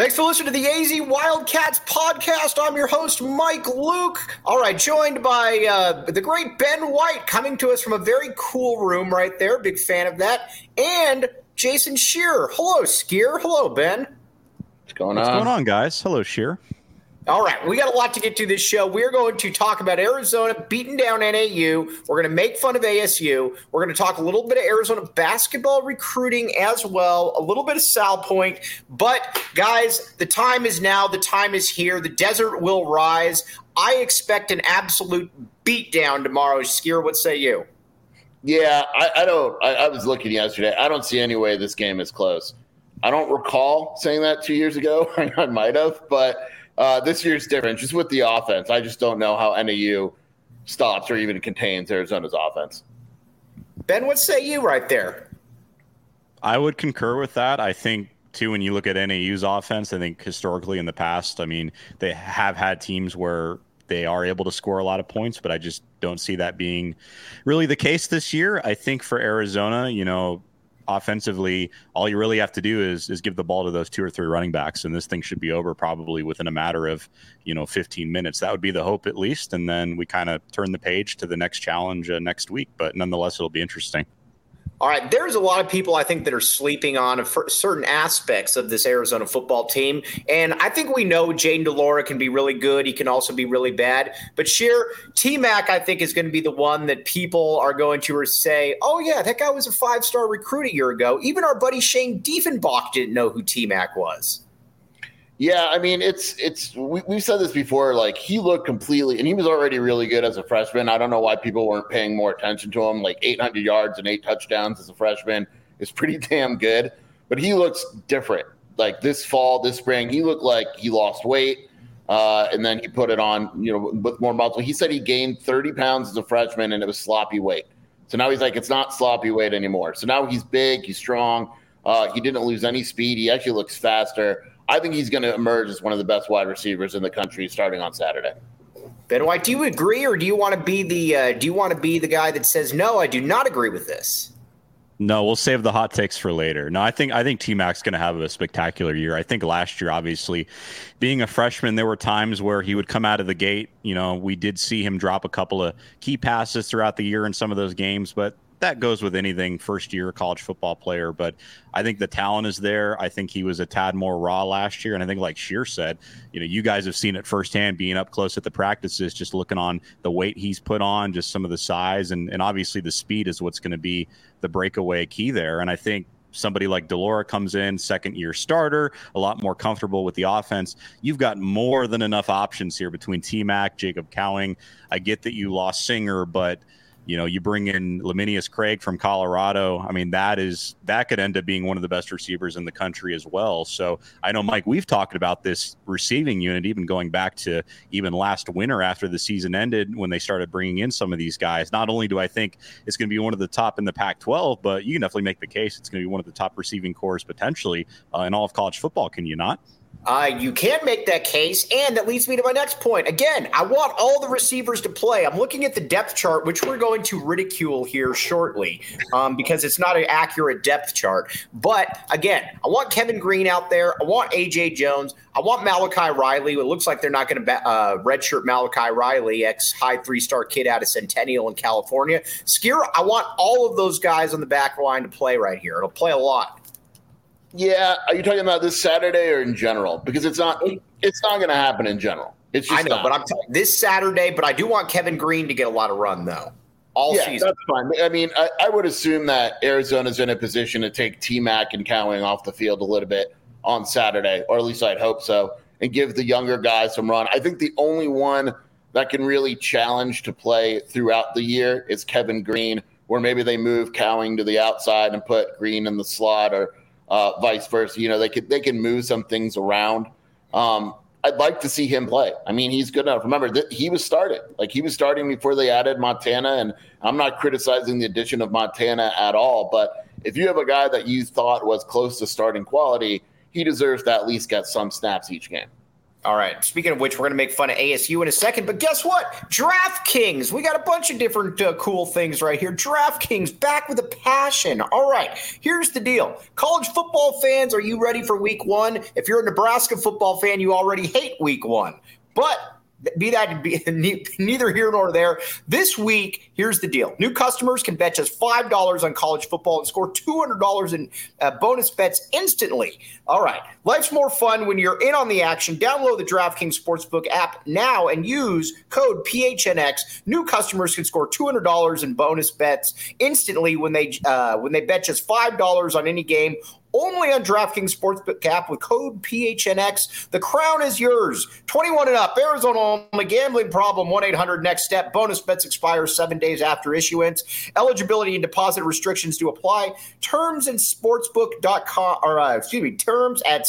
Thanks for listening to the AZ Wildcats podcast. I'm your host, Mike Luke. All right, joined by the great Ben White, coming to us from a very cool room right there. Big fan of that. And Jason Shearer. Hello, Skier. Hello, Ben. What's going on, guys? Hello, Shearer. All right, we got a lot to get to this show. We're going to talk about Arizona beating down NAU. We're going to make fun of ASU. We're going to talk a little bit of Arizona basketball recruiting as well, a little bit of Sal Point. But, guys, the time is now. The time is here. The desert will rise. I expect an absolute beatdown tomorrow. Skier, what say you? Yeah, I don't. I was looking yesterday. I don't see any way this game is close. I don't recall saying that 2 years ago. I might have, but this year's different. Just with the offense, I just don't know how NAU stops or even contains Arizona's offense. Ben, what say you right there? I would concur with that. I think, too, when you look at NAU's offense, I think historically in the past, I mean, they have had teams where they are able to score a lot of points, but I just don't see that being really the case this year. I think for Arizona, offensively, all you really have to do is give the ball to those two or three running backs, and this thing should be over probably within a matter of 15 minutes. That would be the hope, at least, and then we kind of turn the page to the next challenge next week. But nonetheless, it'll be interesting. All right, there's a lot of people I think that are sleeping on certain aspects of this Arizona football team, and I think we know Jayden de Laura can be really good. He can also be really bad. But T-Mac, I think, is going to be the one that people are going to say, oh, yeah, that guy was a five-star recruit a year ago. Even our buddy Shane Diefenbach didn't know who T-Mac was. Yeah, I mean, we've said this before, like he looked completely, and he was already really good as a freshman. I don't know why people weren't paying more attention to him. Like 800 yards and 8 touchdowns as a freshman is pretty damn good, but he looks different. Like this spring, he looked like he lost weight, and then he put it on, with more muscle. He said he gained 30 pounds as a freshman, and it was sloppy weight. So now he's like, it's not sloppy weight anymore. So now he's big, he's strong. He didn't lose any speed. He actually looks faster. I think he's going to emerge as one of the best wide receivers in the country starting on Saturday. Ben White, do you agree, or do you want to be the guy that says no? I do not agree with this. No, we'll save the hot takes for later. No, I think T-Mac's going to have a spectacular year. I think last year, obviously, being a freshman, there were times where he would come out of the gate. We did see him drop a couple of key passes throughout the year in some of those games, but that goes with anything first-year college football player. But I think the talent is there. I think he was a tad more raw last year. And I think, like Shear said, you guys have seen it firsthand being up close at the practices, just looking on the weight he's put on, just some of the size. And obviously the speed is what's going to be the breakaway key there. And I think somebody like de Laura comes in, second-year starter, a lot more comfortable with the offense. You've got more than enough options here between T-Mac, Jacob Cowing. I get that you lost Singer, but you bring in Laminius Craig from Colorado. I mean, that could end up being one of the best receivers in the country as well. So I know, Mike, we've talked about this receiving unit, even going back to even last winter after the season ended when they started bringing in some of these guys. Not only do I think it's going to be one of the top in the Pac-12, but you can definitely make the case it's going to be one of the top receiving corps potentially in all of college football. Can you not? You can make that case, and that leads me to my next point. Again, I want all the receivers to play. I'm looking at the depth chart, which we're going to ridicule here shortly because it's not an accurate depth chart. But, again, I want Kevin Green out there. I want A.J. Jones. I want Malachi Riley. It looks like they're not going to redshirt Malachi Riley, ex-high three-star kid out of Centennial in California. Skier, I want all of those guys on the back line to play right here. It'll play a lot. Yeah, are you talking about this Saturday or in general? Because it's not going to happen in general. It's just but I'm telling this Saturday. But I do want Kevin Green to get a lot of run though. All season. That's fine. I mean, I would assume that Arizona's in a position to take T-Mac and Cowing off the field a little bit on Saturday, or at least I'd hope so, and give the younger guys some run. I think the only one that can really challenge to play throughout the year is Kevin Green, where maybe they move Cowing to the outside and put Green in the slot, or vice versa. They can move some things around. I'd like to see him play. I mean, he's good enough. Remember, he was starting. He was starting before they added Montana, and I'm not criticizing the addition of Montana at all. But if you have a guy that you thought was close to starting quality, he deserves to at least get some snaps each game. All right. Speaking of which, we're going to make fun of ASU in a second. But guess what? DraftKings. We got a bunch of different cool things right here. DraftKings back with a passion. All right. Here's the deal. College football fans, are you ready for week one? If you're a Nebraska football fan, you already hate week one. But neither here nor there. This week, here's the deal. New customers can bet just $5 on college football and score $200 in bonus bets instantly. All right. Life's more fun when you're in on the action. Download the DraftKings Sportsbook app now and use code PHNX. New customers can score $200 in bonus bets instantly when they bet just $5 on any game. Only on DraftKings Sportsbook app with code PHNX. The crown is yours. 21 and up. Arizona only. Gambling problem. 1-800-NEXT STEP. Bonus bets expire 7 days after issuance. Eligibility and deposit restrictions do apply. Terms at sportsbook.com terms at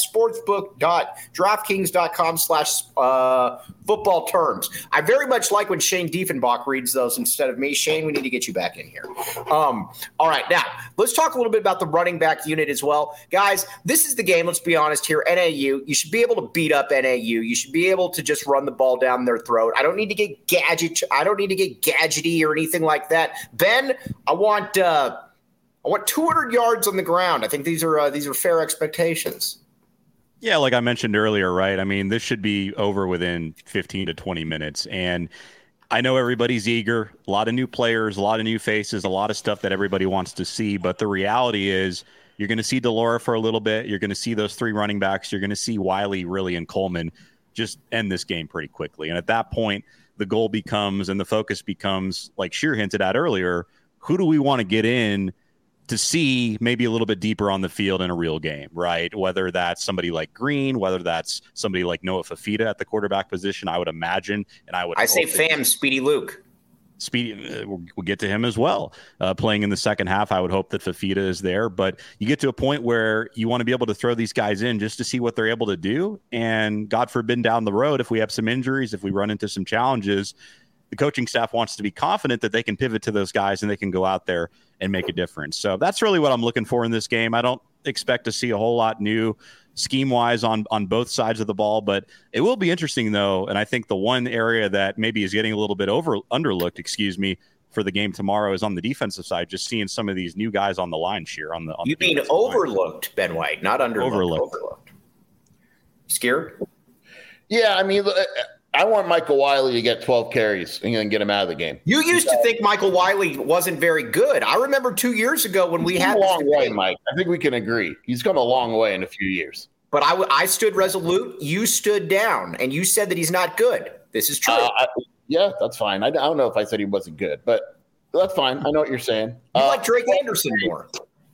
sportsbook.draftkings.com/football terms. I very much like when Shane Diefenbach reads those instead of me. Shane, we need to get you back in here. All right, now let's talk a little bit about the running back unit as well. Guys, this is the game, let's be honest here. NAU, you should be able to beat up NAU. You should be able to just run the ball down their throat. I don't need to get gadgety or anything like that. Ben, I want 200 yards on the ground. I think these are fair expectations. Yeah, like I mentioned earlier, right? I mean, this should be over within 15 to 20 minutes. And I know everybody's eager, a lot of new players, a lot of new faces, a lot of stuff that everybody wants to see. But the reality is you're going to see Delora for a little bit. You're going to see those three running backs. You're going to see Wiley, really, and Coleman just end this game pretty quickly. And at that point, the goal becomes and the focus becomes, like Sheer hinted at earlier, who do we want to get in to see maybe a little bit deeper on the field in a real game, right? Whether that's somebody like Green, whether that's somebody like Noah Fafita at the quarterback position, I would imagine. And I say Speedy Luke. Speedy, we'll get to him as well. Playing in the second half, I would hope that Fafita is there. But you get to a point where you want to be able to throw these guys in just to see what they're able to do. And God forbid down the road, if we have some injuries, if we run into some challenges, the coaching staff wants to be confident that they can pivot to those guys and they can go out there and make a difference. So that's really what I'm looking for in this game. I don't expect to see a whole lot new scheme-wise on both sides of the ball, but it will be interesting, though, and I think the one area that maybe is getting a little bit underlooked, for the game tomorrow is on the defensive side, just seeing some of these new guys on the line here. You mean overlooked, line. Ben White, not underlooked. Overlooked. Scared? Yeah, I mean, I want Michael Wiley to get 12 carries and then get him out of the game. You used to think Michael Wiley wasn't very good. I remember 2 years ago when we had a long way, Mike. I think we can agree. He's come a long way in a few years. But I stood resolute. You stood down, and you said that he's not good. This is true. Yeah, that's fine. I don't know if I said he wasn't good, but that's fine. I know what you're saying. You like Drake Anderson more.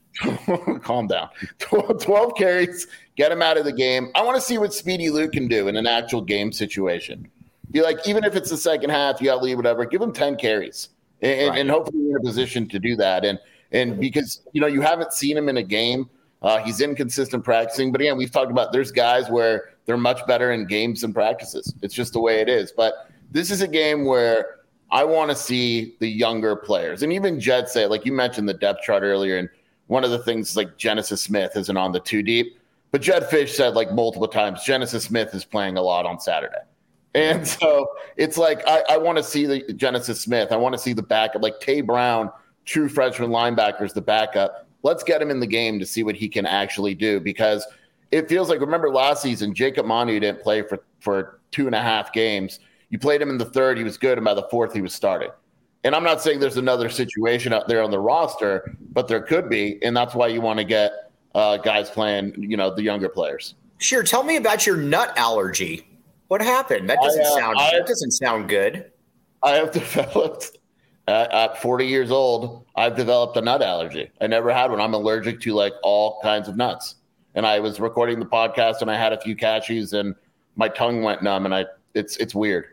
Calm down. 12 carries, get him out of the game. I want to see what Speedy Luke can do in an actual game situation. You're like, even if it's the second half, you got to leave, whatever, give him 10 carries and hopefully you're in a position to do that. And because, you haven't seen him in a game, he's inconsistent practicing. But again, we've talked about there's guys where they're much better in games than practices. It's just the way it is. But this is a game where I want to see the younger players. And even Jed said, like you mentioned the depth chart earlier, and one of the things like Genesis Smith isn't on the two deep. But Jed Fish said like multiple times, Genesis Smith is playing a lot on Saturday. And so it's like I want to see the Genesis Smith. I want to see the backup, like Tay Brown, true freshman linebackers, the backup. Let's get him in the game to see what he can actually do, because it feels like, remember last season, Jacob Manu didn't play for 2.5 games. You played him in the third, he was good, and by the fourth, he was starting. And I'm not saying there's another situation out there on the roster, but there could be, and that's why you want to get guys playing, the younger players. Sure, tell me about your nut allergy. What happened? That doesn't sound good. I have developed at 40 years old. I've developed a nut allergy. I never had one. I'm allergic to like all kinds of nuts. And I was recording the podcast and I had a few cashews and my tongue went numb and it's weird.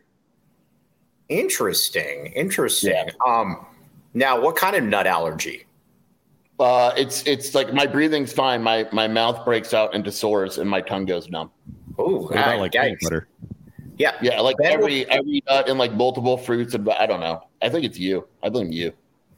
Interesting. Yeah. Now, what kind of nut allergy? It's like my breathing's fine. My mouth breaks out into sores and my tongue goes numb. Oh, like peanut butter. Yeah, like every nut and like multiple fruits and I don't know. I think it's you. I blame you.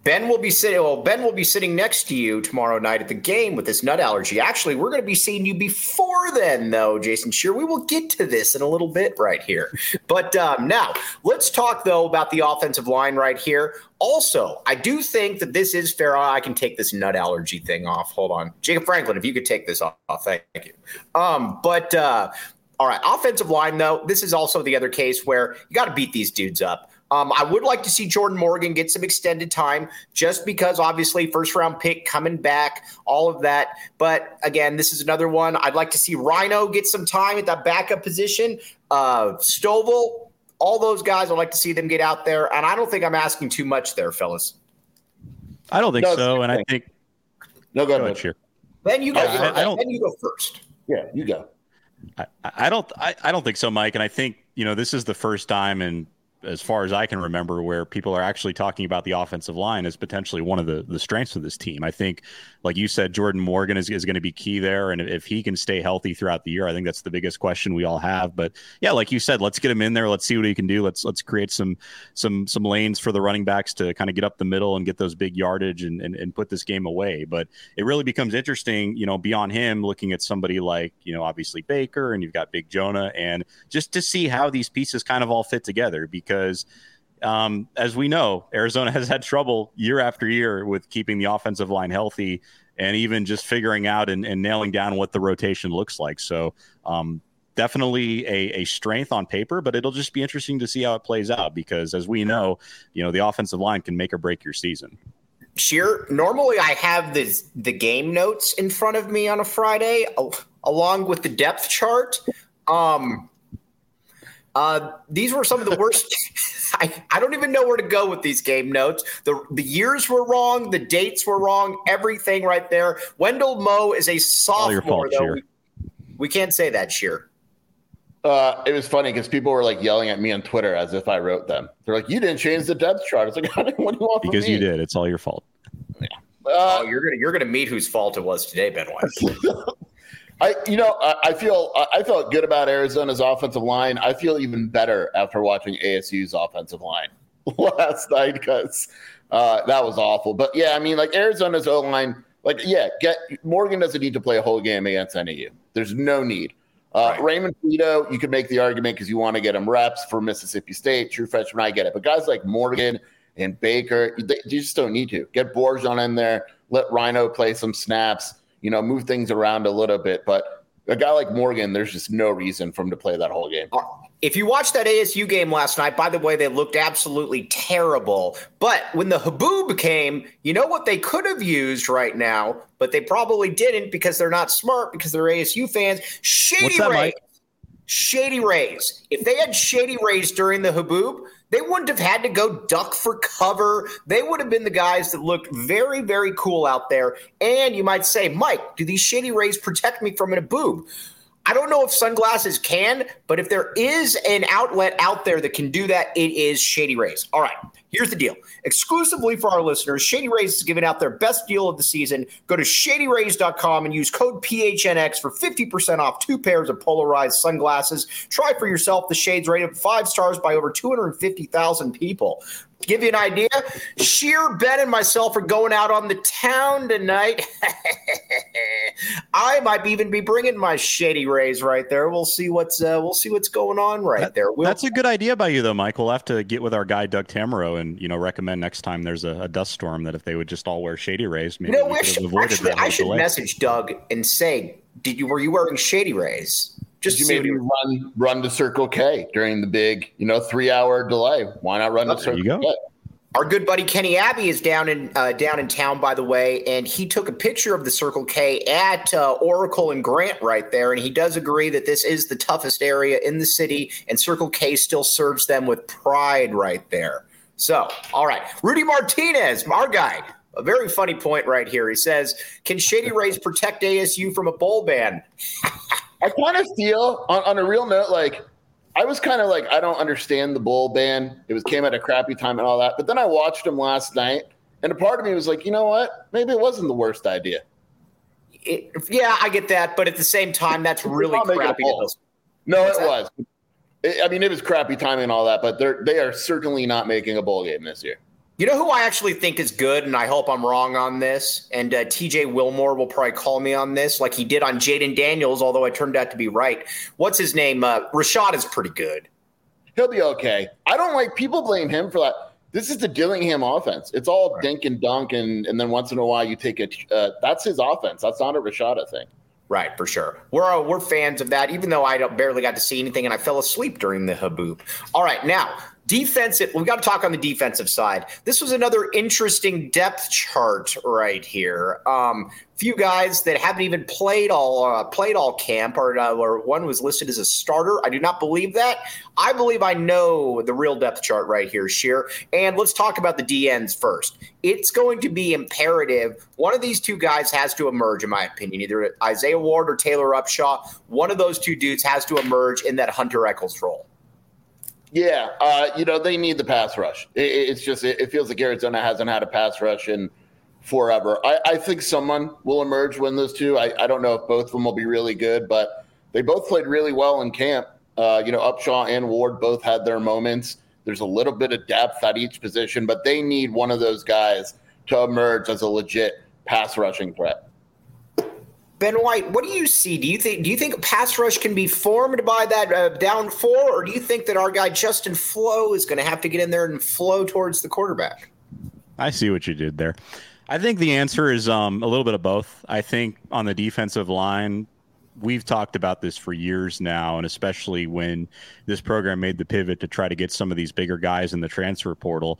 Ben will be sitting next to you tomorrow night at the game with this nut allergy. Actually, we're going to be seeing you before then, though, Jason Scheer. We will get to this in a little bit right here. But now let's talk, though, about the offensive line right here. Also, I do think that this is fair. I can take this nut allergy thing off. Hold on. Jacob Franklin, if you could take this off. Thank you. All right, offensive line, though, this is also the other case where you got to beat these dudes up. I would like to see Jordan Morgan get some extended time just because, obviously, first-round pick coming back, all of that. But, again, this is another one. I'd like to see Rhino get some time at that backup position. Stovall, all those guys, I'd like to see them get out there. And I don't think I'm asking too much there, fellas. I don't think so, and I think – No, go ahead. Sure. Then you go first. Then you go first. Yeah, you go. I don't think so, Mike. And I think, this is the first time in – as far as I can remember, where people are actually talking about the offensive line as potentially one of the strengths of this team. I think, like you said, Jordan Morgan is going to be key there. And if he can stay healthy throughout the year, I think that's the biggest question we all have. But yeah, like you said, let's get him in there. Let's see what he can do. Let's create some lanes for the running backs to kind of get up the middle and get those big yardage and put this game away. But it really becomes interesting, beyond him, looking at somebody like, obviously Baker, and you've got Big Jonah, and just to see how these pieces kind of all fit together. Because as we know, Arizona has had trouble year after year with keeping the offensive line healthy and even just figuring out and nailing down what the rotation looks like. So definitely a strength on paper, but it'll just be interesting to see how it plays out because, as we know, the offensive line can make or break your season. Scheer, normally I have the game notes in front of me on a Friday along with the depth chart. These were some of the worst. I don't even know where to go with these game notes. The years were wrong. The dates were wrong. Everything right there. Wendell Moe is a sophomore, though. We can't say that, Scheer. It was funny because people were like yelling at me on Twitter as if I wrote them. They're like, "You didn't change the depth chart." It's like, "What do you want from me?" Because you did. It's all your fault. Yeah. You're gonna meet whose fault it was today, Ben Weiss. I felt good about Arizona's offensive line. I feel even better after watching ASU's offensive line last night because that was awful. But yeah, I mean, like Arizona's O-line, Morgan doesn't need to play a whole game against NAU. There's no need. Right. Raymond Frito, you could make the argument because you want to get him reps for Mississippi State, true freshman. I get it. But guys like Morgan and Baker, you just don't need to. Get Borjan in there. Let Rhino play some snaps. Move things around a little bit. But a guy like Morgan, there's just no reason for him to play that whole game. If you watched that ASU game last night, by the way, they looked absolutely terrible. But when the Haboob came, you know what they could have used right now, but they probably didn't because they're not smart, because they're ASU fans. Shady Rays. Shady Rays. If they had Shady Rays during the Haboob, they wouldn't have had to go duck for cover. They would have been the guys that looked very, very cool out there. And you might say, Mike, do these Shady Rays protect me from an Haboob? I don't know if sunglasses can, but if there is an outlet out there that can do that, it is Shady Rays. All right, here's the deal. Exclusively for our listeners, Shady Rays is giving out their best deal of the season. Go to shadyrays.com and use code PHNX for 50% off 2 pairs of polarized sunglasses. Try for yourself the shades rated 5 stars by over 250,000 people. Give you an idea, Scheer, Ben, and myself are going out on the town tonight. I might even be bringing my Shady Rays right there. We'll see what's going on there. That's a good idea by you, though, Mike. We'll have to get with our guy Doug Tamaro and recommend next time there's a dust storm that if they would just all wear Shady Rays, maybe we could have avoided that. I should message Doug and say, were you wearing Shady Rays? Just you maybe run to Circle K during the big 3-hour delay. Why not run to Circle K? Our good buddy Kenny Abbey is down in town, by the way, and he took a picture of the Circle K at Oracle and Grant right there, and he does agree that this is the toughest area in the city, and Circle K still serves them with pride right there. So, all right, Rudy Martinez, our guy, a very funny point right here. He says, "Can Shady Rays protect ASU from a bowl ban?" I kind of feel, on a real note, like I was kind of like, I don't understand the bowl ban. It came at a crappy time and all that. But then I watched him last night, and a part of me was like, you know what? Maybe it wasn't the worst idea. Yeah, I get that. But at the same time, that's really crappy. No, it was. It was crappy timing and all that. But they are certainly not making a bowl game this year. You know who I actually think is good, and I hope I'm wrong on this, and TJ Wilmore will probably call me on this like he did on Jaden Daniels, although I turned out to be right. What's his name? Rashad is pretty good. He'll be okay. I don't like people blame him for that. This is the Dillingham offense. It's all dink and dunk, and then once in a while you take that's his offense. That's not a Rashada thing. Right, for sure. We're fans of that, even though I barely got to see anything and I fell asleep during the Haboob. All right, now, defensive. We've got to talk on the defensive side. This was another interesting depth chart right here. Few guys that haven't even played all camp, or one was listed as a starter. I do not believe that. I believe I know the real depth chart right here, Sheer. And let's talk about the DNs first. It's going to be imperative. One of these two guys has to emerge, in my opinion, either Isaiah Ward or Taylor Upshaw. One of those two dudes has to emerge in that Hunter Echols role. Yeah, they need the pass rush. It's just it feels like Arizona hasn't had a pass rush in forever. I think someone will emerge when those two. I don't know if both of them will be really good, but they both played really well in camp. Upshaw and Ward both had their moments. There's a little bit of depth at each position, but they need one of those guys to emerge as a legit pass rushing threat. Ben White, what do you see? Do you think a pass rush can be formed by that down four, or do you think that our guy Justin Flo is going to have to get in there and flow towards the quarterback? I see what you did there. I think the answer is a little bit of both. I think on the defensive line, we've talked about this for years now, and especially when this program made the pivot to try to get some of these bigger guys in the transfer portal.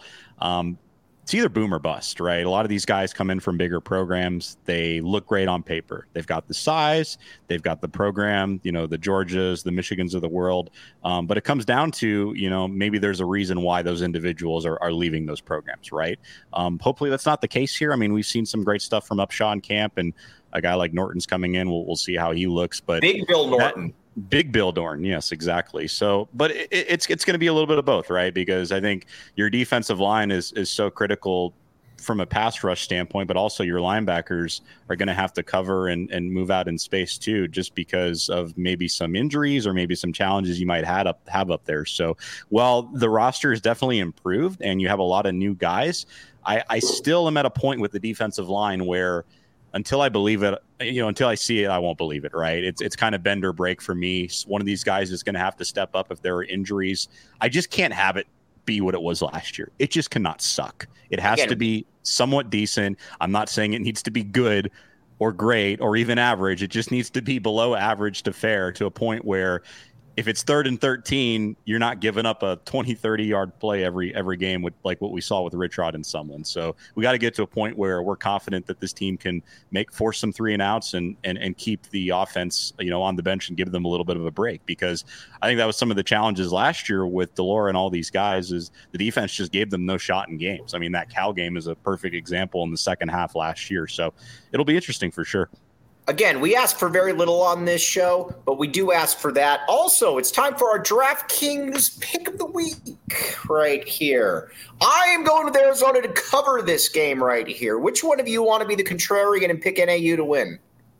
It's either boom or bust, right? A lot of these guys come in from bigger programs. They look great on paper. They've got the size, they've got the program, the Georgias, the Michigans of the world. But it comes down to, maybe there's a reason why those individuals are leaving those programs, right? Hopefully that's not the case here. I mean, we've seen some great stuff from Upshaw in camp, and a guy like Norton's coming in. We'll see how he looks. But Big Bill Norton. Big Bill Dorn, yes, exactly. So, but it's going to be a little bit of both, right? Because I think your defensive line is so critical from a pass rush standpoint, but also your linebackers are going to have to cover and move out in space too, just because of maybe some injuries or maybe some challenges you might have up there. So, while the roster is definitely improved and you have a lot of new guys, I still am at a point with the defensive line where, until I believe it, until I see it, I won't believe it, right? It's kind of bend or break for me. One of these guys is going to have to step up if there are injuries. I just can't have it be what it was last year. It just cannot suck. It has to be somewhat decent. I'm not saying it needs to be good or great or even average. It just needs to be below average to fair, to a point where if it's 3rd and 13, you're not giving up a 20, 30-yard play every game with like what we saw with Rich Rod and Sumlin. So we got to get to a point where we're confident that this team can force some 3-and-outs and keep the offense, on the bench and give them a little bit of a break, because I think that was some of the challenges last year with Delora and all these guys, is the defense just gave them no shot in games. I mean, that Cal game is a perfect example in the second half last year. So it'll be interesting for sure. Again, we ask for very little on this show, but we do ask for that. Also, it's time for our DraftKings Pick of the Week right here. I am going to Arizona to cover this game right here. Which one of you want to be the contrarian and pick NAU to win?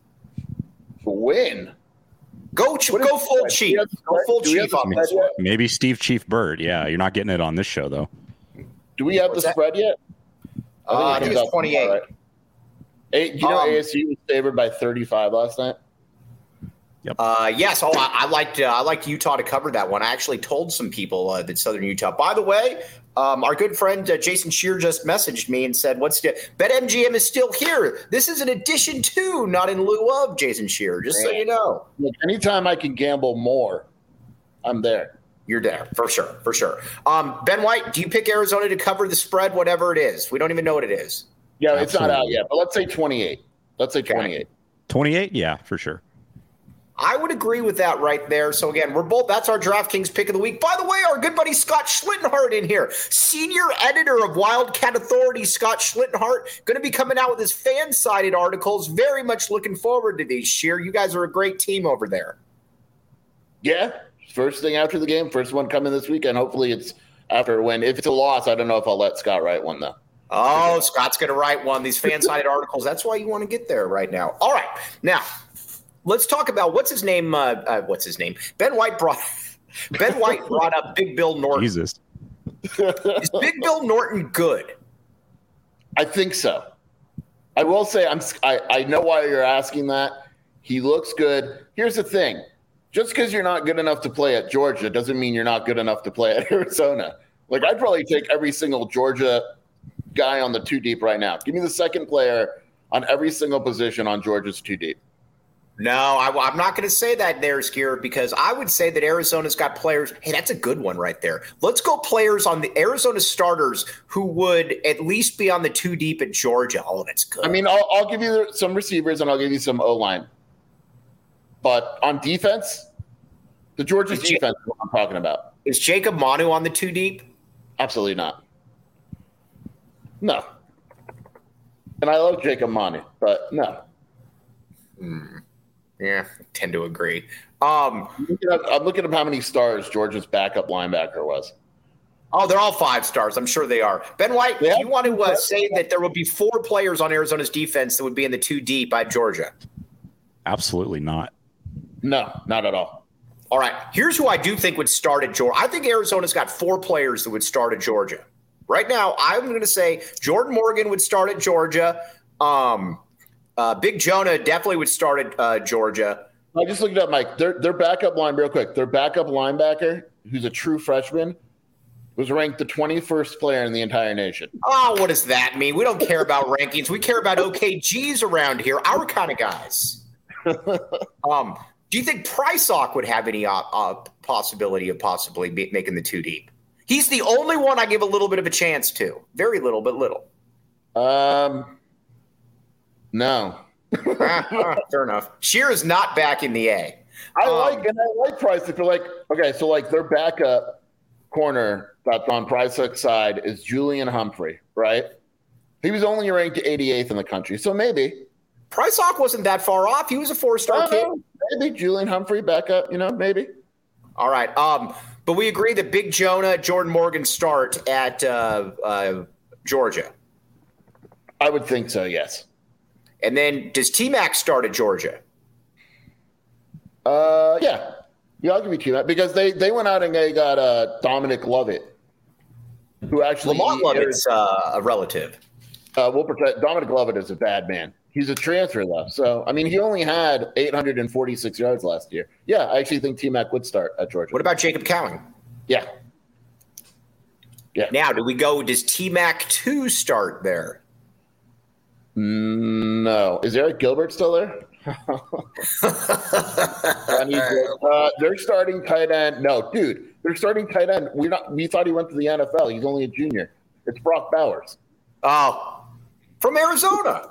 Win? Go full Chief. Go full Chief on this one. Maybe Steve Chief Bird. Yeah, you're not getting it on this show, though. Do we have the spread yet? I think it's 28. Right. ASU was favored by 35 last night. Yep. Yes. Oh, I liked Utah to cover that one. I actually told some people that Southern Utah. By the way, our good friend Jason Shear just messaged me and said, BetMGM is still here. This is an addition to, not in lieu of, Jason Shear, just so you know. Look, anytime I can gamble more, I'm there. You're there, for sure. Ben White, do you pick Arizona to cover the spread, whatever it is? We don't even know what it is. Yeah, it's not out yet, but let's say 28. Let's say 28. 28? Yeah, for sure. I would agree with that right there. So, again, that's our DraftKings Pick of the Week. By the way, our good buddy Scott Schlittenhart in here, senior editor of Wildcat Authority, Scott Schlittenhart, going to be coming out with his fan-sided articles. Very much looking forward to these, Sheer. You guys are a great team over there. Yeah, first thing after the game, first one coming this weekend. Hopefully it's after a win. If it's a loss, I don't know if I'll let Scott write one, though. Oh, Scott's going to write one. These fan-sided articles. That's why you want to get there right now. All right. Now, let's talk about what's his name. Ben White brought up Big Bill Norton. Jesus. Is Big Bill Norton good? I think so. I will say I know why you're asking that. He looks good. Here's the thing. Just because you're not good enough to play at Georgia doesn't mean you're not good enough to play at Arizona. Like, I'd probably take every single Georgia guy on the 2 deep right now. Give me the second player on every single position on Georgia's 2 deep. No, I'm not going to say that there, Skier, because I would say that Arizona's got players. Hey, that's a good one right there. Let's go players on the Arizona starters who would at least be on the 2 deep at Georgia. Oh, that's good. I mean, I'll give you some receivers and I'll give you some O-line. But on defense, the Georgia defense is what I'm talking about. Is Jacob Manu on the 2 deep? Absolutely not. No. And I love Jacob Manu, but no. Yeah, I tend to agree. I'm looking at how many stars Georgia's backup linebacker was. Oh, they're all 5 stars. I'm sure they are. Ben White, do you want to say that there will be 4 players on Arizona's defense that would be in the 2 deep at Georgia? Absolutely not. No, not at all. All right. Here's who I do think would start at Georgia. I think Arizona's got 4 players that would start at Georgia. Right now, I'm going to say Jordan Morgan would start at Georgia. Big Jonah definitely would start at Georgia. I just looked it up, Mike. Their backup line, real quick. Their backup linebacker, who's a true freshman, was ranked the 21st player in the entire nation. Oh, what does that mean? We don't care about rankings. We care about OKGs around here, our kind of guys. Do you think Prysock would have any possibility of possibly making the 2 deep? He's the only one I give a little bit of a chance to. Very little, but little. No. Fair enough. Shear is not back in the A. I like Price. If you're like, okay, so like their backup corner that's on Prysock's side is Julian Humphrey, right? He was only ranked 88th in the country, so maybe. Prysock wasn't that far off. He was a 4-star kid. Maybe Julian Humphrey backup, maybe. All right. But we agree that Big Jonah, Jordan Morgan start at Georgia. I would think so, yes. And then does T-Mac start at Georgia? Yeah. Yeah, I'll give you T-Mac because they went out and they got Dominic Lovett, who actually Lamont Lovett is a relative. Dominic Lovett is a bad man. He's a transfer, though. So, I mean, he only had 846 yards last year. Yeah, I actually think T-Mac would start at Georgia. What about Jacob Cowing? Yeah. Now, does T-Mac 2 start there? No. Is Eric Gilbert still there? They're starting tight end. No, dude, they're starting tight end. We thought he went to the NFL. He's only a junior. It's Brock Bowers. Oh, from Arizona.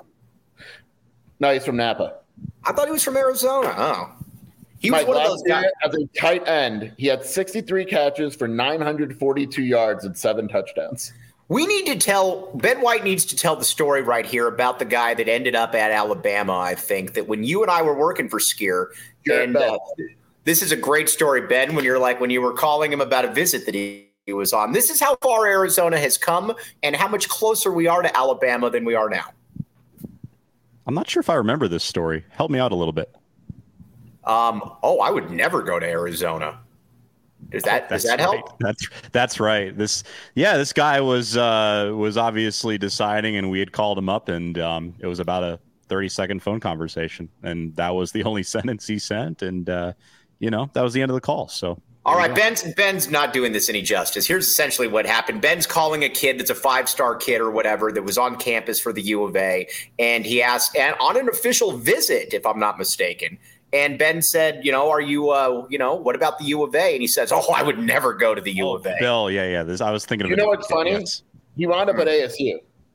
No, he's from Napa. I thought he was from Arizona. Oh. He was one of those guys. As a tight end, he had 63 catches for 942 yards and 7 touchdowns. Ben White needs to tell the story right here about the guy that ended up at Alabama, I think, that when you and I were working for Skier, and this is a great story, Ben, when you were calling him about a visit that he was on. This is how far Arizona has come and how much closer we are to Alabama than we are now. I'm not sure if I remember this story. Help me out a little bit. I would never go to Arizona. Does that help? That's right. This guy was obviously deciding, and we had called him up, and it was about a 30-second phone conversation, and that was the only sentence he sent, and that was the end of the call. So. All right, Ben's not doing this any justice. Here's essentially what happened. Ben's calling a kid that's a 5-star kid or whatever that was on campus for the U of A, and he asked, and on an official visit, if I'm not mistaken, and Ben said, are you, what about the U of A? And he says, I would never go to the U of A. Bill, yeah. I was thinking of it. You know what's funny? Yes. He wound up at ASU.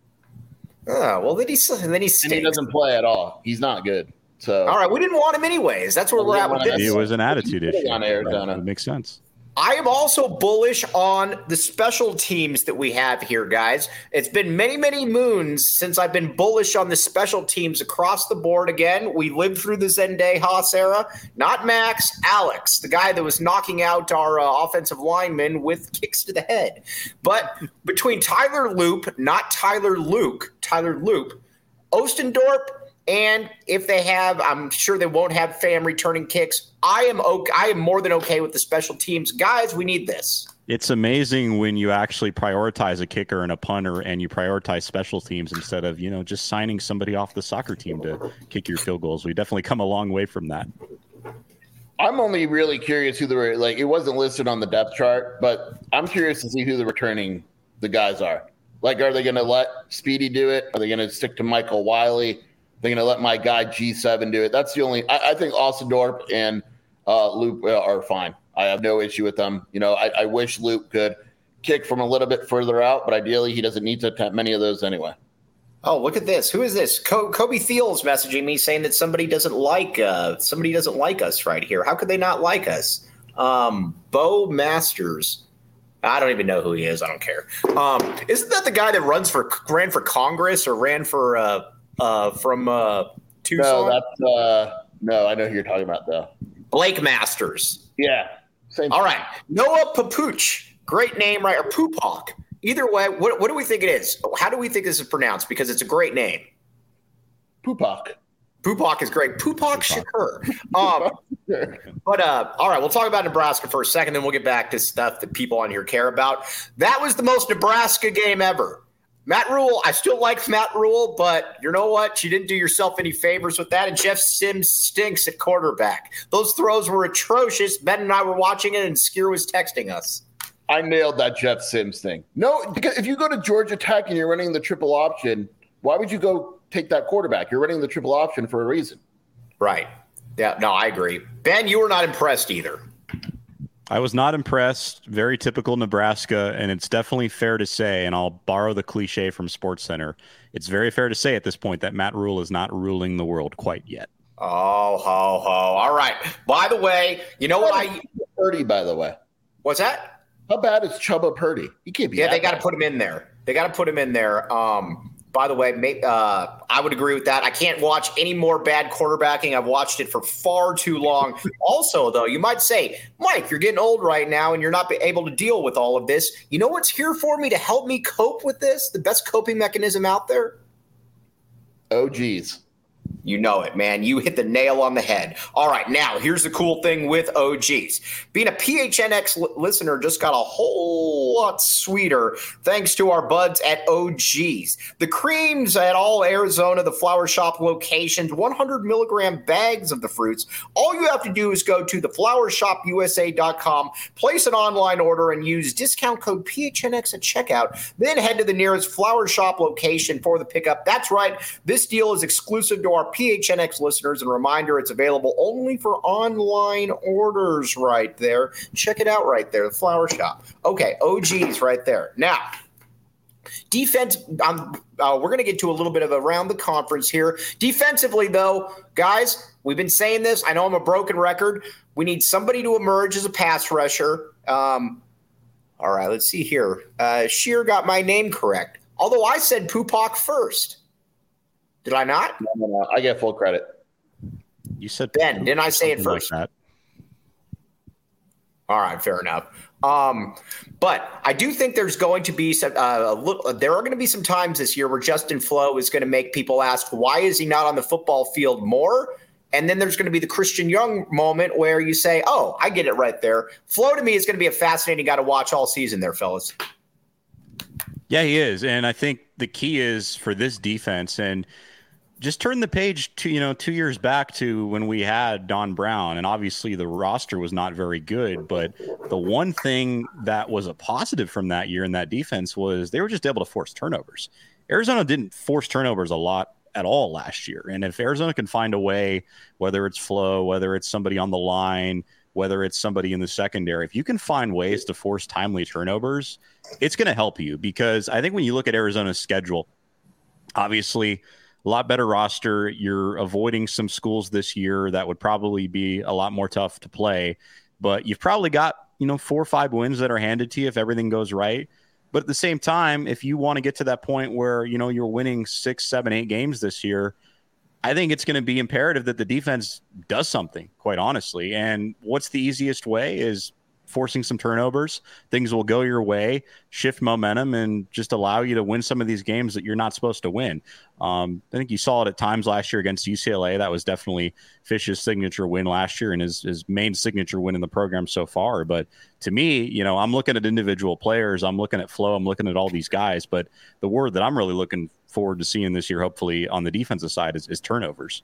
Oh, well, then he doesn't play at all. He's not good. So, all right, we didn't want him anyways. That's where we're at with this. It was an attitude issue. On Arizona. It makes sense. I am also bullish on the special teams that we have here, guys. It's been many, many moons since I've been bullish on the special teams across the board again. We lived through the Zenday Haas era. Not Max, Alex, the guy that was knocking out our offensive linemen with kicks to the head. But between Tyler Loop, not Tyler Luke, Tyler Loop, Ostendorp, and if they have, I'm sure they won't have Pham returning kicks. I am more than okay with the special teams. Guys, we need this. It's amazing when you actually prioritize a kicker and a punter and you prioritize special teams instead of, just signing somebody off the soccer team to kick your field goals. We definitely come a long way from that. I'm only really curious who it wasn't listed on the depth chart, but I'm curious to see who the guys are. Like, are they going to let Speedy do it? Are they going to stick to Michael Wiley? They're going to let my guy G7 do it. That's the only. I think Osendorp and Luke are fine. I have no issue with them. I wish Luke could kick from a little bit further out, but ideally he doesn't need to attempt many of those anyway. Oh, look at this. Who is this? Kobe Thiel's messaging me saying that somebody doesn't like us right here. How could they not like us? Bo Masters. I don't even know who he is. I don't care. Isn't that the guy that ran for Congress or ran for from Tucson? No, I know who you're talking about though. Blake Masters. Yeah. Same. All right. Noah Papuch. Great name, right? Or Pupak. Either way, what do we think it is? How do we think this is pronounced? Because it's a great name. Pupak. Pupak is great. Pupak Shakur. But all right, we'll talk about Nebraska for a second, then we'll get back to stuff that people on here care about. That was the most Nebraska game ever. Matt Rule, I still like Matt Rule, but you know what? You didn't do yourself any favors with that, and Jeff Sims stinks at quarterback. Those throws were atrocious. Ben and I were watching it, and Skier was texting us. I nailed that Jeff Sims thing. No, because if you go to Georgia Tech and you're running the triple option, why would you go take that quarterback? You're running the triple option for a reason. Right. Yeah, no, I agree. Ben, you were not impressed either. I was not impressed. Very typical Nebraska, and it's definitely fair to say, and I'll borrow the cliche from SportsCenter, it's very fair to say at this point that Matt Rule is not ruling the world quite yet. Oh, ho, ho. All right. By the way, you know what Purdy, by the way. What's that? How bad is Chubba Purdy? He can't be. Yeah, they got to put him in there. By the way, I would agree with that. I can't watch any more bad quarterbacking. I've watched it for far too long. Also, though, you might say, Mike, you're getting old right now and you're not able to deal with all of this. You know what's here for me to help me cope with this? The best coping mechanism out there? Oh, geez. You know it, man. You hit the nail on the head. All right, now here's the cool thing with OGs. Being a PHNX listener just got a whole lot sweeter thanks to our buds at OGs. The creams at all Arizona, the Flower Shop locations, 100 milligram bags of the fruits. All you have to do is go to theflowershopusa.com, place an online order, and use discount code PHNX at checkout. Then head to the nearest Flower Shop location for the pickup. That's right. This deal is exclusive to our PHNX listeners, and reminder, it's available only for online orders right there. Check it out right there, the Flower Shop. Okay, OGs right there. Now, defense, we're going to get to a little bit of around the conference here. Defensively, though, guys, we've been saying this. I know I'm a broken record. We need somebody to emerge as a pass rusher. All right, let's see here. Shear got my name correct, although I said Pupak first. Did I not? No. I get full credit. You said Ben. Didn't I say it first? Like that. All right, fair enough. But I do think there's going to be there are going to be some times this year where Justin Flo is going to make people ask, why is he not on the football field more? And then there's going to be the Christian Young moment where you say, oh, I get it right there. Flo to me is going to be a fascinating guy to watch all season there, fellas. Yeah, he is. And I think the key is for this defense, and just turn the page to, 2 years back to when we had Don Brown, and obviously the roster was not very good, but the one thing that was a positive from that year in that defense was they were just able to force turnovers. Arizona didn't force turnovers a lot at all last year. And if Arizona can find a way, whether it's Flo, whether it's somebody on the line, whether it's somebody in the secondary, if you can find ways to force timely turnovers, it's going to help you, because I think when you look at Arizona's schedule, obviously a lot better roster. You're avoiding some schools this year that would probably be a lot more tough to play, but you've probably got, 4 or 5 wins that are handed to you if everything goes right. But at the same time, if you want to get to that point where, you're winning 6, 7, 8 games this year, I think it's going to be imperative that the defense does something, quite honestly. And what's the easiest way is forcing some turnovers, things will go your way, shift momentum, and just allow you to win some of these games that you're not supposed to win. I think you saw it at times last year against UCLA. That was definitely Fish's signature win last year and his main signature win in the program so far. But to me, I'm looking at individual players. I'm looking at flow. I'm looking at all these guys. But the word that I'm really looking forward to seeing this year, hopefully on the defensive side, is turnovers.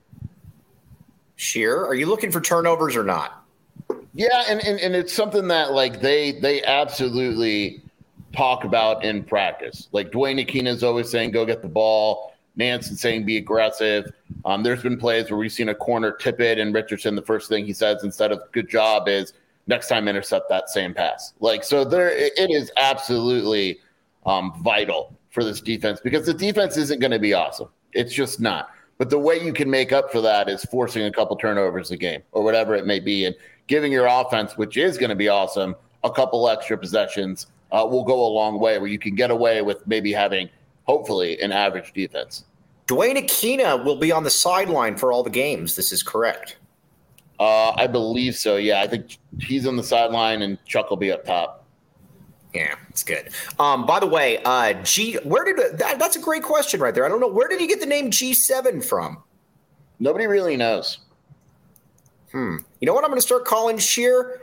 Sheer, are you looking for turnovers or not? Yeah, and it's something that like they absolutely talk about in practice. Like Dwayne Akina is always saying, go get the ball. Nansen saying be aggressive. There's been plays where we've seen a corner tip it, and Richardson, the first thing he says instead of good job is next time intercept that same pass. Like, so it is absolutely vital for this defense, because the defense isn't going to be awesome. It's just not. But the way you can make up for that is forcing a couple turnovers a game or whatever it may be, and giving your offense, which is going to be awesome, a couple extra possessions will go a long way, where you can get away with maybe having, hopefully, an average defense. Dwayne Akina will be on the sideline for all the games. This is correct. I believe so, yeah. I think he's on the sideline and Chuck will be up top. Yeah, it's good. By the way, that's a great question right there. I don't know. Where did he get the name G7 from? Nobody really knows. You know what I'm going to start calling Sheer?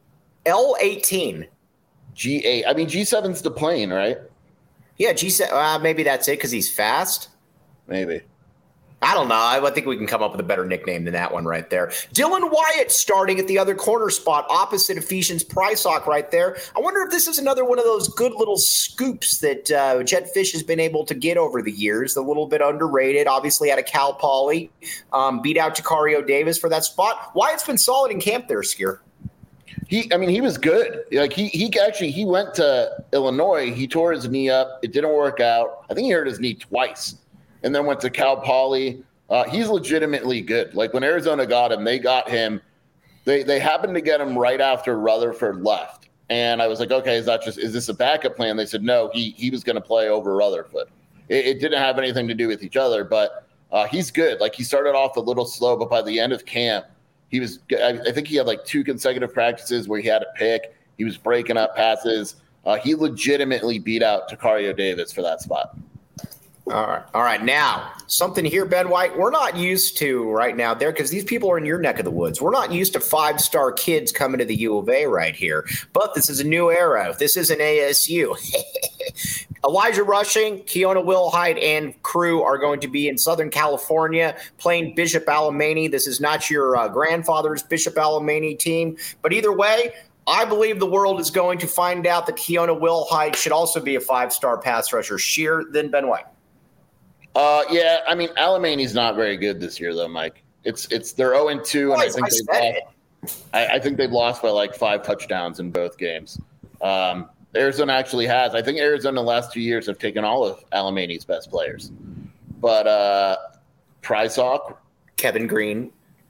L18. G8. I mean, G7's the plane, right? Yeah, G7. Maybe that's it because he's fast. Maybe. I don't know. I think we can come up with a better nickname than that one right there. Dylan Wyatt starting at the other corner spot opposite Ephesians Prysock right there. I wonder if this is another one of those good little scoops that Jedd Fisch has been able to get over the years. A little bit underrated. Obviously out of Cal Poly. Beat out Jacario Davis for that spot. Wyatt's been solid in camp there, Skier. He was good. Like he went to Illinois. He tore his knee up. It didn't work out. I think he hurt his knee twice. And then went to Cal Poly. He's legitimately good. Like when Arizona got him, they got him. They happened to get him right after Rutherford left. And I was like, okay, is this a backup plan? They said, no, he was going to play over Rutherford. It didn't have anything to do with each other, but he's good. Like he started off a little slow, but by the end of camp, he was, I think he had like 2 consecutive practices where he had a pick. He was breaking up passes. He legitimately beat out Jacario Davis for that spot. All right. Now, something here, Ben White, we're not used to right now there because these people are in your neck of the woods. We're not used to 5-star kids coming to the U of A right here. But this is a new era. This is an ASU. Elijah Rushing, Keona Wilhite, and crew are going to be in Southern California playing Bishop Alemany. This is not your grandfather's Bishop Alemany team. But either way, I believe the world is going to find out that Keona Wilhite should also be a 5-star pass rusher. Sheer, then Ben White. Yeah, I mean, Alemany's not very good this year, though, Mike. They're 0-2, and I think they've lost by like 5 touchdowns in both games. Arizona actually has. I think Arizona the last 2 years have taken all of Alemany's best players. But Prysock, Kevin Green,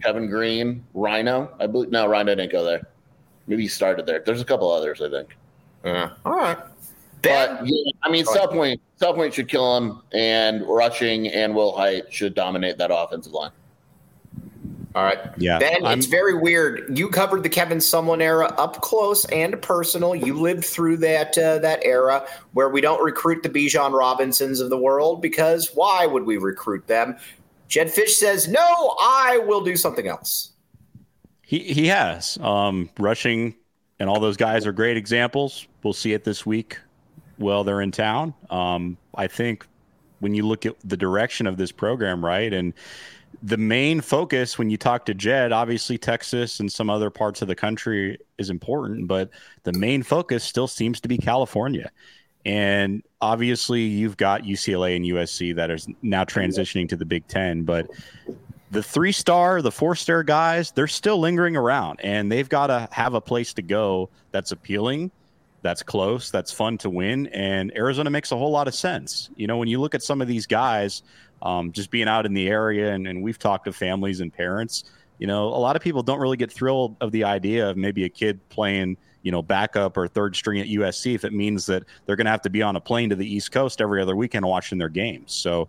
Rhino. I believe no, Rhino didn't go there. Maybe he started there. There's a couple others, I think. All right. But yeah, I mean, South Point should kill him, and Rushing and Wilhite should dominate that offensive line. All right. Yeah. Ben, it's very weird. You covered the Kevin Sumlin era up close and personal. You lived through that era where we don't recruit the Bijan Robinsons of the world because why would we recruit them? Jedd Fisch says, no, I will do something else. He has. Rushing and all those guys are great examples. We'll see it this week. Well, they're in town. I think when you look at the direction of this program, right, and the main focus when you talk to Jedd, obviously Texas and some other parts of the country is important, but the main focus still seems to be California. And obviously you've got UCLA and USC that is now transitioning to the Big Ten, but the 3-star, the 4-star guys, they're still lingering around, and they've got to have a place to go that's appealing, that's close, that's fun to win, and Arizona makes a whole lot of sense. You know, when you look at some of these guys just being out in the area, and we've talked to families and parents, you know, a lot of people don't really get thrilled of the idea of maybe a kid playing, you know, backup or third string at USC if it means that they're going to have to be on a plane to the East Coast every other weekend watching their games. So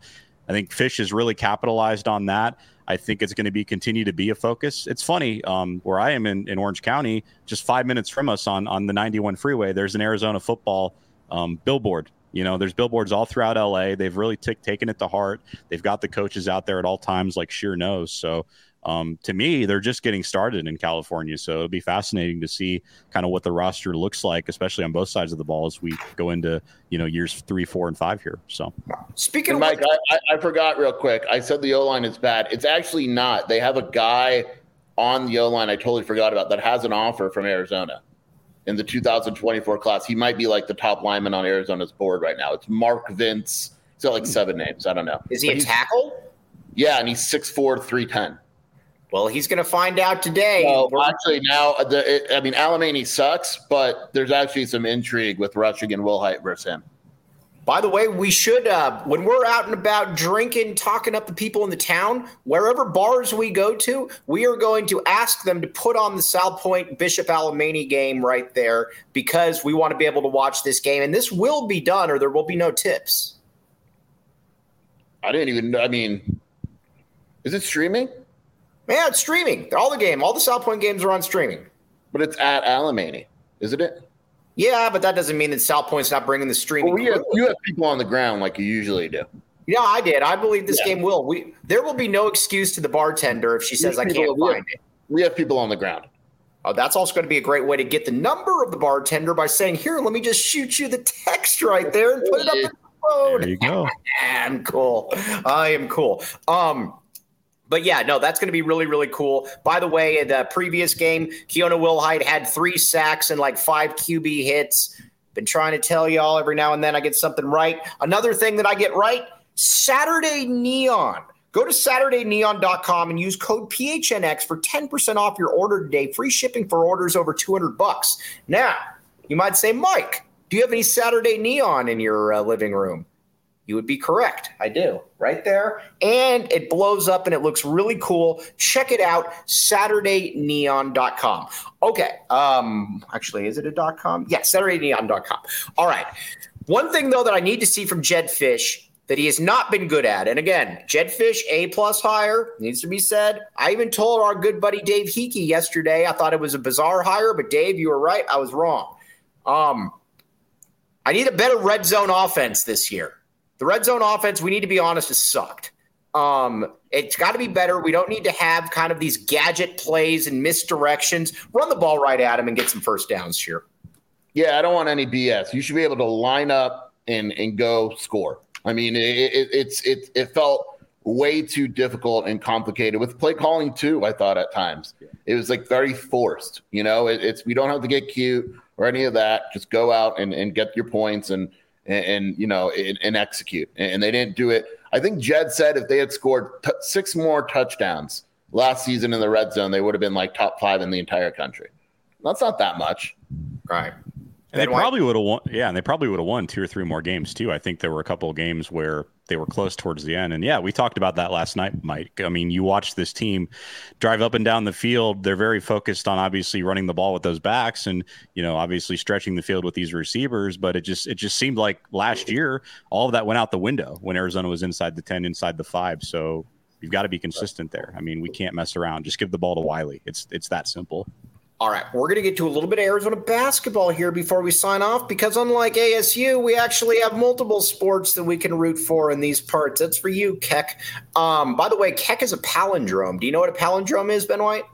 I think Fish has really capitalized on that. I think it's going to continue to be a focus. It's funny, where I am in Orange County, just 5 minutes from us on the 91 freeway, there's an Arizona football billboard. There's billboards all throughout LA. They've really taken it to heart. They've got the coaches out there at all times, like Scheer knows. So to me, they're just getting started in California. So it'll be fascinating to see kind of what the roster looks like, especially on both sides of the ball as we go into, years 3, 4, and 5 here. So speaking of Mike, I forgot real quick. I said the O-line is bad. It's actually not. They have a guy on the O-line I totally forgot about that has an offer from Arizona in the 2024 class. He might be like the top lineman on Arizona's board right now. It's Mark Vince. He's got like 7 names. I don't know. Is he a tackle? Yeah, and he's 6'4", 310. Well, he's going to find out today. Well, actually, now, Alamany sucks, but there's actually some intrigue with Rushing and Wilhite versus him. By the way, we should, when we're out and about drinking, talking up the people in the town, wherever bars we go to, we are going to ask them to put on the South Point Bishop Alamany game right there because we want to be able to watch this game. And this will be done or there will be no tips. Is it streaming? Yeah, it's streaming. All the South Point games are on streaming. But it's at Alamany, isn't it? Yeah, but that doesn't mean that South Point's not bringing the streaming. Well, you have people on the ground like you usually do. Yeah, I did. I believe this game will. There will be no excuse to the bartender if she says I can't find it. We have people on the ground. Oh, that's also going to be a great way to get the number of the bartender by saying, here, let me just shoot you the text right there and put it up in the phone. There you go. I am cool. But yeah, no, that's going to be really, really cool. By the way, in the previous game, Keona Wilhite had 3 sacks and like 5 QB hits. Been trying to tell y'all every now and then I get something right. Another thing that I get right, Saturday Neon. Go to SaturdayNeon.com and use code PHNX for 10% off your order today. Free shipping for orders over $200. Now, you might say, Mike, do you have any Saturday Neon in your living room? You would be correct. I do. Right there. And it blows up and it looks really cool. Check it out. SaturdayNeon.com. Okay. Actually, is it a .com? Yeah, SaturdayNeon.com. All right. One thing, though, that I need to see from Jedd Fisch that he has not been good at. And again, Jedd Fisch, A+ hire, needs to be said. I even told our good buddy Dave Hickey yesterday, I thought it was a bizarre hire, but Dave, you were right. I was wrong. I need a better red zone offense this year. The red zone offense, we need to be honest, has sucked. It's got to be better. We don't need to have kind of these gadget plays and misdirections. Run the ball right at him and get some first downs here. Yeah, I don't want any BS. You should be able to line up and go score. I mean, it felt way too difficult and complicated with play calling too. I thought at times it was like very forced. We don't have to get cute or any of that. Just go out and get your points and execute. And they didn't do it. I think Jed said if they had scored 6 more touchdowns last season in the red zone, they would have been like top 5 in the entire country. That's not that much. Right. And they probably would have won. Yeah, and they probably would have won 2 or 3 more games too. I think there were a couple of games where they were close towards the end. And yeah, we talked about that last night, Mike. I mean, you watch this team drive up and down the field. They're very focused on obviously running the ball with those backs and, obviously stretching the field with these receivers. But it just seemed like last year, all of that went out the window when Arizona was inside the 10, inside the 5. So you've got to be consistent there. I mean, we can't mess around. Just give the ball to Wiley. It's that simple. All right, we're going to get to a little bit of Arizona basketball here before we sign off because unlike ASU, we actually have multiple sports that we can root for in these parts. That's for you, Keck. By the way, Keck is a palindrome. Do you know what a palindrome is, Ben White?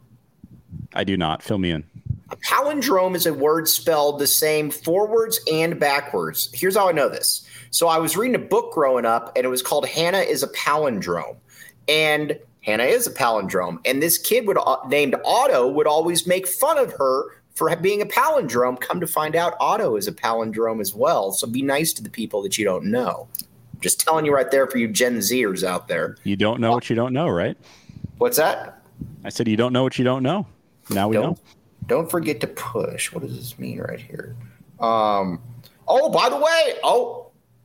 I do not. Fill me in. A palindrome is a word spelled the same forwards and backwards. Here's how I know this. So I was reading a book growing up, and it was called Hannah is a Palindrome. And Hannah is a palindrome, and this kid named Otto would always make fun of her for being a palindrome. Come to find out, Otto is a palindrome as well. So be nice to the people that you don't know. Just telling you right there for you Gen Zers out there. You don't know what you don't know, right? What's that? I said you don't know what you don't know. Now we know. Don't forget to push. What does this mean right here? Oh, by the way. Oh.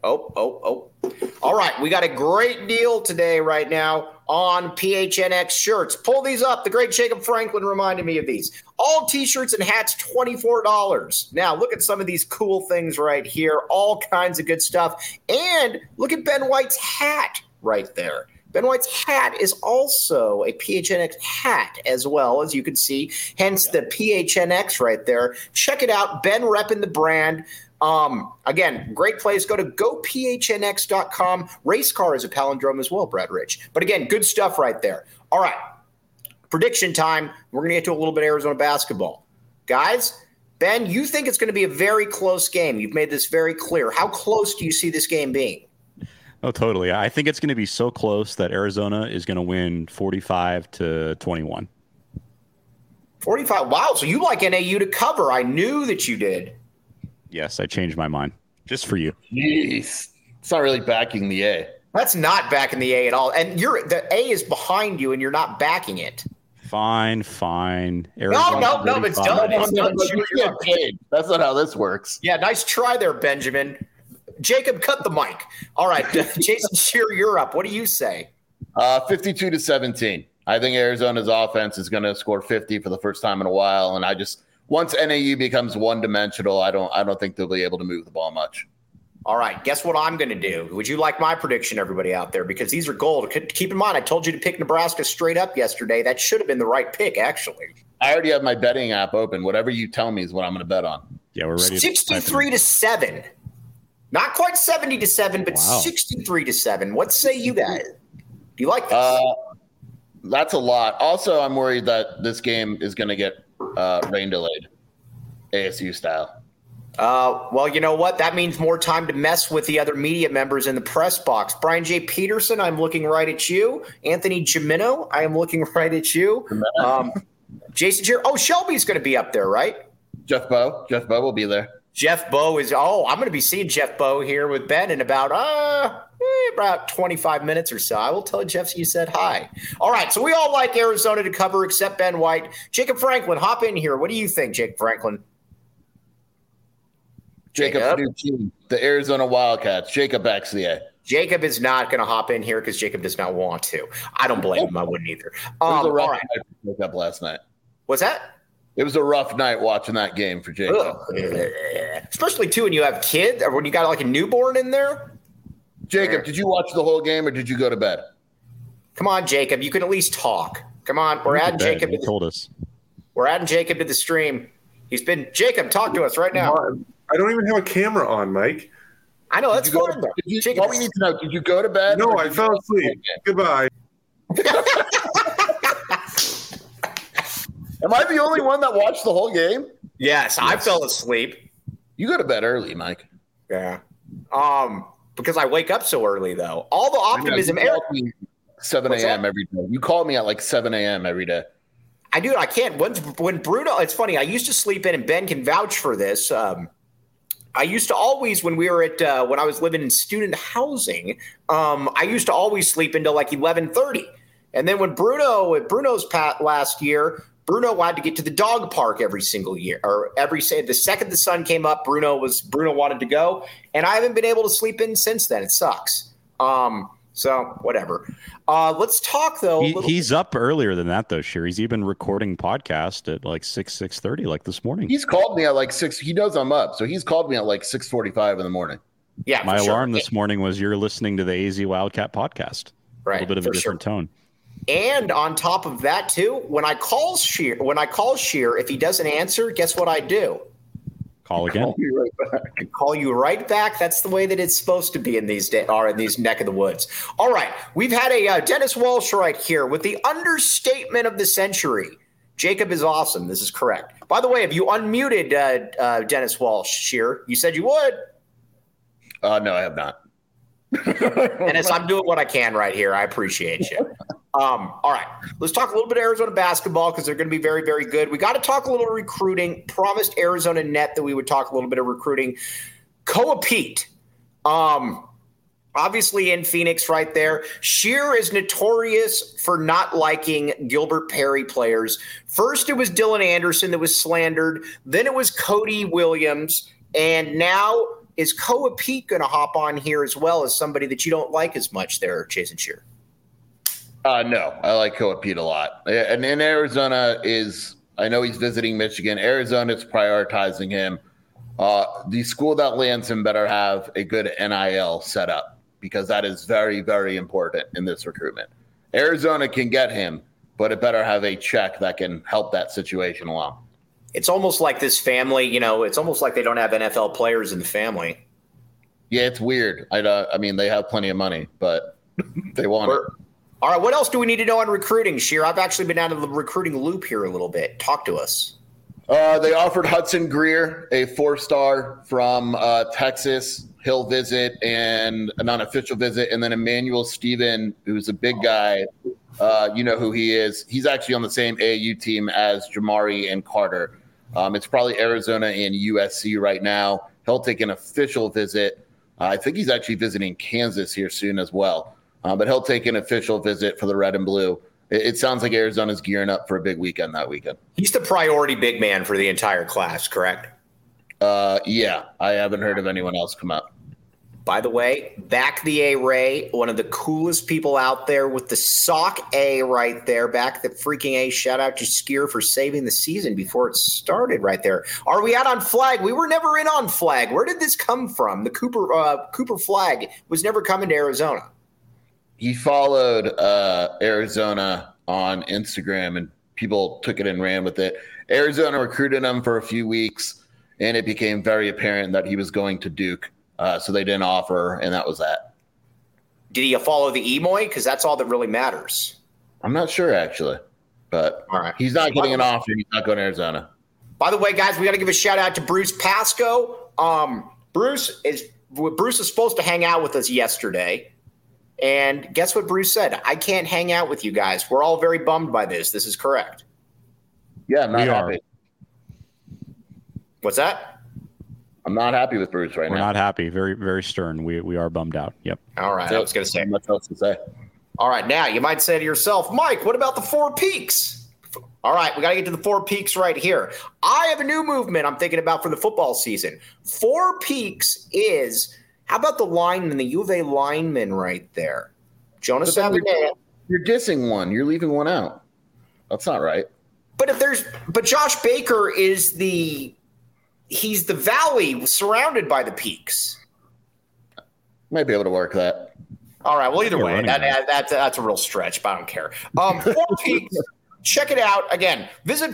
All right, we got a great deal today right now on PHNX shirts. Pull these up. The great Jacob Franklin reminded me of these. All T-shirts and hats, $24. Now, look at some of these cool things right here. All kinds of good stuff. And look at Ben White's hat right there. Ben White's hat is also a PHNX hat as well, as you can see, hence the PHNX right there. Check it out. Ben repping the brand. Again, great place. Go to gophnx.com. Race car is a palindrome as well, Brad Rich. But again, good stuff right there. All right. Prediction time. We're going to get to a little bit of Arizona basketball. Guys, Ben, you think it's going to be a very close game. You've made this very clear. How close do you see this game being? Oh, totally. I think it's going to be so close that Arizona is going to win 45-21. 45. Wow. So you like NAU to cover. I knew that you did. Yes, I changed my mind just for you. Jeez. It's not really backing the A. That's not backing the A at all. And the A is behind you and you're not backing it. Fine. No, it's done. That's not how this works. Yeah, nice try there, Benjamin. Jacob, cut the mic. All right, Jason Shear, you're up. What do you say? 52-17. I think Arizona's offense is going to score 50 for the first time in a while, and once NAU becomes one-dimensional, I don't think they'll be able to move the ball much. All right, guess what I'm going to do? Would you like my prediction, everybody out there? Because these are gold. Keep in mind, I told you to pick Nebraska straight up yesterday. That should have been the right pick, actually. I already have my betting app open. Whatever you tell me is what I'm going to bet on. Yeah, we're ready. 63-7. Not quite 70-7, but 63-7. What say you guys? Do you like this? That's a lot. Also, I'm worried that this game is going to get rain delayed, ASU style. Well, you know what? That means more time to mess with the other media members in the press box. Brian J. Peterson, I'm looking right at you. Anthony Gimino, I am looking right at you. Jason Shear. Oh, Shelby's going to be up there, right? Jeff Bowe will be there. Jeff Bowe is. Oh, I'm going to be seeing Jeff Bowe here with Ben in about 25 minutes or so. I will tell Jeff you said hi. All right, so we all like Arizona to cover except Ben White. Jacob Franklin, hop in here. What do you think, Jacob Franklin? Jacob, new team, the Arizona Wildcats. Jacob backs the A. Jacob is not going to hop in here because Jacob does not want to. I don't blame him. I wouldn't either. It was a rough night to wake up last night. What's that? It was a rough night watching that game for Jacob. Especially, too, when you have kids or when you got like a newborn in there. Jacob, did you watch the whole game or did you go to bed? Come on, Jacob. You can at least talk. Come on. We're adding Jacob. He told us. We're adding Jacob to the stream. Jacob, talk to us right now. I don't even have a camera on, Mike. I know. That's fine, though. What we need to know, did you go to bed? No, I fell asleep. Goodbye. Am I the only one that watched the whole game? Yes, I fell asleep. You go to bed early, Mike. Yeah. Because I wake up so early, though. All the optimism. 7 a.m. every day. You call me at like 7 a.m. every day. I do. I can't. When Bruno, it's funny. I used to sleep in, and Ben can vouch for this. I used to always, when we were at, when I was living in student housing, I used to always sleep until like 11:30. And then when Bruno's last year, Bruno had to get to the dog park every single year, or the second the sun came up, Bruno wanted to go, and I haven't been able to sleep in since then. It sucks. So whatever. Let's talk though. He's up earlier than that though, Shear. He's even recording podcast at like 6:30, like this morning. He's called me at like 6. He knows I'm up, so he's called me at like 6:45 in the morning. Yeah, my alarm this morning was you're listening to the AZ Wildcat podcast. Right, a little bit of a different tone. And on top of that too, when I call Shear, if he doesn't answer, guess what I do? Call again. Call you right back. That's the way that it's supposed to be in these neck of the woods. All right, we've had a Dennis Walsh right here with the understatement of the century. Jacob is awesome. This is correct. By the way, have you unmuted Dennis Walsh, Shear? You said you would. No, I have not. Dennis, I'm doing what I can right here. I appreciate you. All right, let's talk a little bit of Arizona basketball because they're going to be very, very good. We got to talk a little recruiting. Promised Arizona Net that we would talk a little bit of recruiting. Koa Pete, obviously in Phoenix right there. Shear is notorious for not liking Gilbert Perry players. First, it was Dylan Anderson that was slandered. Then it was Cody Williams. And now is Koa Pete going to hop on here as well as somebody that you don't like as much there, Jason Shear? No, I like Koa Pete a lot. And in Arizona I know he's visiting Michigan. Arizona's prioritizing him. The school that lands him better have a good NIL setup because that is very, very important in this recruitment. Arizona can get him, but it better have a check that can help that situation along. It's almost like this family, it's almost like they don't have NFL players in the family. Yeah, it's weird. I mean, they have plenty of money, but they want it. All right, what else do we need to know on recruiting, Sheer? I've actually been out of the recruiting loop here a little bit. Talk to us. They offered Hudson Greer, a 4-star from Texas. He'll visit and an unofficial visit. And then Emmanuel Steven, who's a big guy. You know who he is. He's actually on the same AAU team as Jamari and Carter. It's probably Arizona and USC right now. He'll take an official visit. I think he's actually visiting Kansas here soon as well. But he'll take an official visit for the red and blue. It sounds like Arizona's gearing up for a big weekend that weekend. He's the priority big man for the entire class, correct? Yeah, I haven't heard of anyone else come up. By the way, back the A-Ray, one of the coolest people out there with the sock A right there. Back the freaking A. Shout out to Skier for saving the season before it started right there. Are we out on flag? We were never in on flag. Where did this come from? The Cooper flag was never coming to Arizona. He followed Arizona on Instagram, and people took it and ran with it. Arizona recruited him for a few weeks, and it became very apparent that he was going to Duke. So they didn't offer, and that was that. Did he follow the Emoy? Because that's all that really matters. I'm not sure, actually. But all right. He's not getting an offer. He's not going to Arizona. By the way, guys, we got to give a shout-out to Bruce Pasco. Bruce is supposed to hang out with us yesterday. And guess what Bruce said? I can't hang out with you guys. We're all very bummed by this. This is correct. Yeah, I'm not happy. What's that? I'm not happy with Bruce right now. We're not happy. Very, very stern. We are bummed out. Yep. All right. I was going to say. Much else to say. All right. Now, you might say to yourself, Mike, what about the Four Peaks? All right. We got to get to the Four Peaks right here. I have a new movement I'm thinking about for the football season. Four Peaks is, how about the lineman, the U of A lineman right there? Jonas Avenue. You're dissing one. You're leaving one out. That's not right. But Josh Baker is he's the valley surrounded by the peaks. Might be able to work that. All right. Well, either way, that's a real stretch, but I don't care. Four Peaks, check it out. Again, visit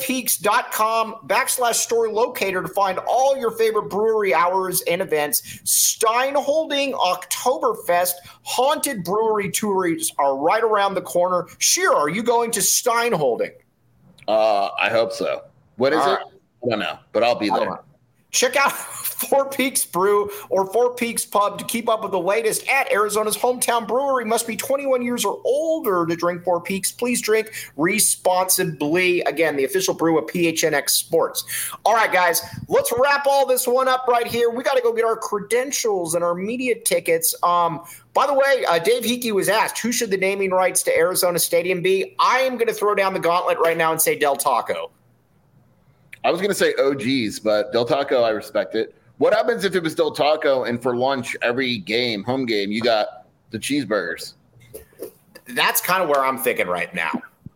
fourpeaks.com/story locator to find all your favorite brewery hours and events. Steinholding Oktoberfest haunted brewery tours are right around the corner. Sheer, are you going to Steinholding? I hope so. What is it? I don't know, but I'll be there. Check out Four Peaks Brew or Four Peaks Pub to keep up with the latest at Arizona's hometown brewery. Must be 21 years or older to drink Four Peaks. Please drink responsibly. Again, the official brew of PHNX Sports. All right, guys, let's wrap all this one up right here. We got to go get our credentials and our media tickets. By the way, Dave Hickey was asked, who should the naming rights to Arizona Stadium be? I am going to throw down the gauntlet right now and say Del Taco. I was going to say OGs, but Del Taco, I respect it. What happens if it was Del Taco and for lunch every game, home game, you got the cheeseburgers? That's kind of where I'm thinking right now.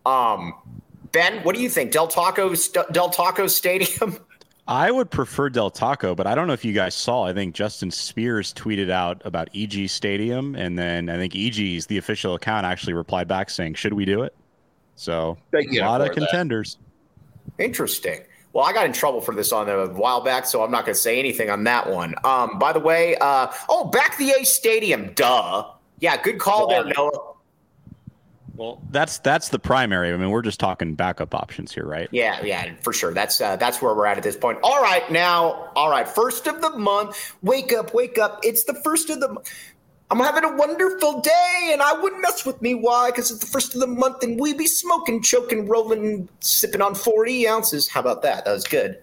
Ben, what do you think? Del Taco Stadium? I would prefer Del Taco, but I don't know if you guys saw. I think Justin Spears tweeted out about EG Stadium, and then I think EG's, the official account, actually replied back saying, should we do it? So a lot of contenders. Interesting. Well, I got in trouble for this on a while back, so I'm not going to say anything on that one. By the way, back the A Stadium, duh. Yeah, good call there, Noah. Well, that's the primary. I mean, we're just talking backup options here, right? Yeah, for sure. That's where we're at this point. All right, first of the month. Wake up. It's the first of the month. I'm having a wonderful day, and I wouldn't mess with me. Why? Because it's the first of the month, and we be smoking, choking, rolling, sipping on 40 ounces. How about that? That was good.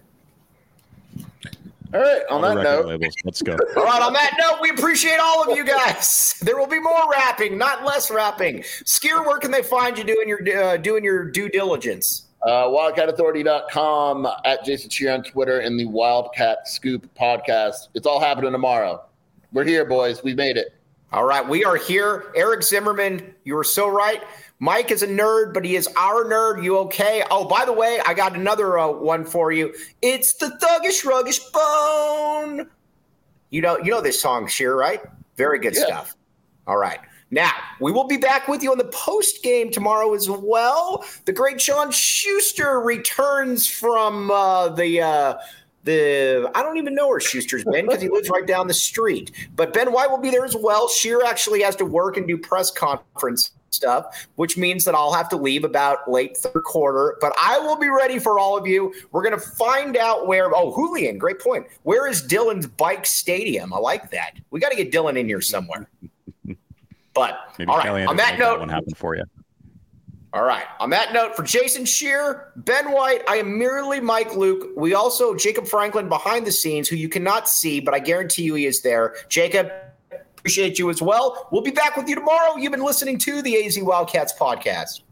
All right, on that note. Labels. Let's go. All right, on that note, we appreciate all of you guys. There will be more rapping, not less rapping. Skier, where can they find you doing your due diligence? WildcatAuthority.com, at Jason Cheer on Twitter, and the Wildcat Scoop podcast. It's all happening tomorrow. We're here, boys. We made it. All right, we are here. Eric Zimmerman, you were so right. Mike is a nerd, but he is our nerd. You okay? Oh, by the way, I got another one for you. It's the Thuggish Ruggish Bone. You know this song, Sheer, right? Very good stuff. All right. Now, we will be back with you on the post game tomorrow as well. The great Sean Schuster returns from the I don't even know where Schuster's been because he lives right down the street. But Ben White will be there as well. Scheer actually has to work and do press conference stuff, which means that I'll have to leave about late third quarter. But I will be ready for all of you. We're going to find out where – oh, Julian, great point. Where is Dylan's bike stadium? I like that. We got to get Dylan in here somewhere. But, maybe all right, Kelly on that note – that one happened for you. All right. On that note, for Jason Scheer, Ben White, I am merely Mike Luke. We also, Jacob Franklin behind the scenes, who you cannot see, but I guarantee you he is there. Jacob, appreciate you as well. We'll be back with you tomorrow. You've been listening to the AZ Wildcats podcast.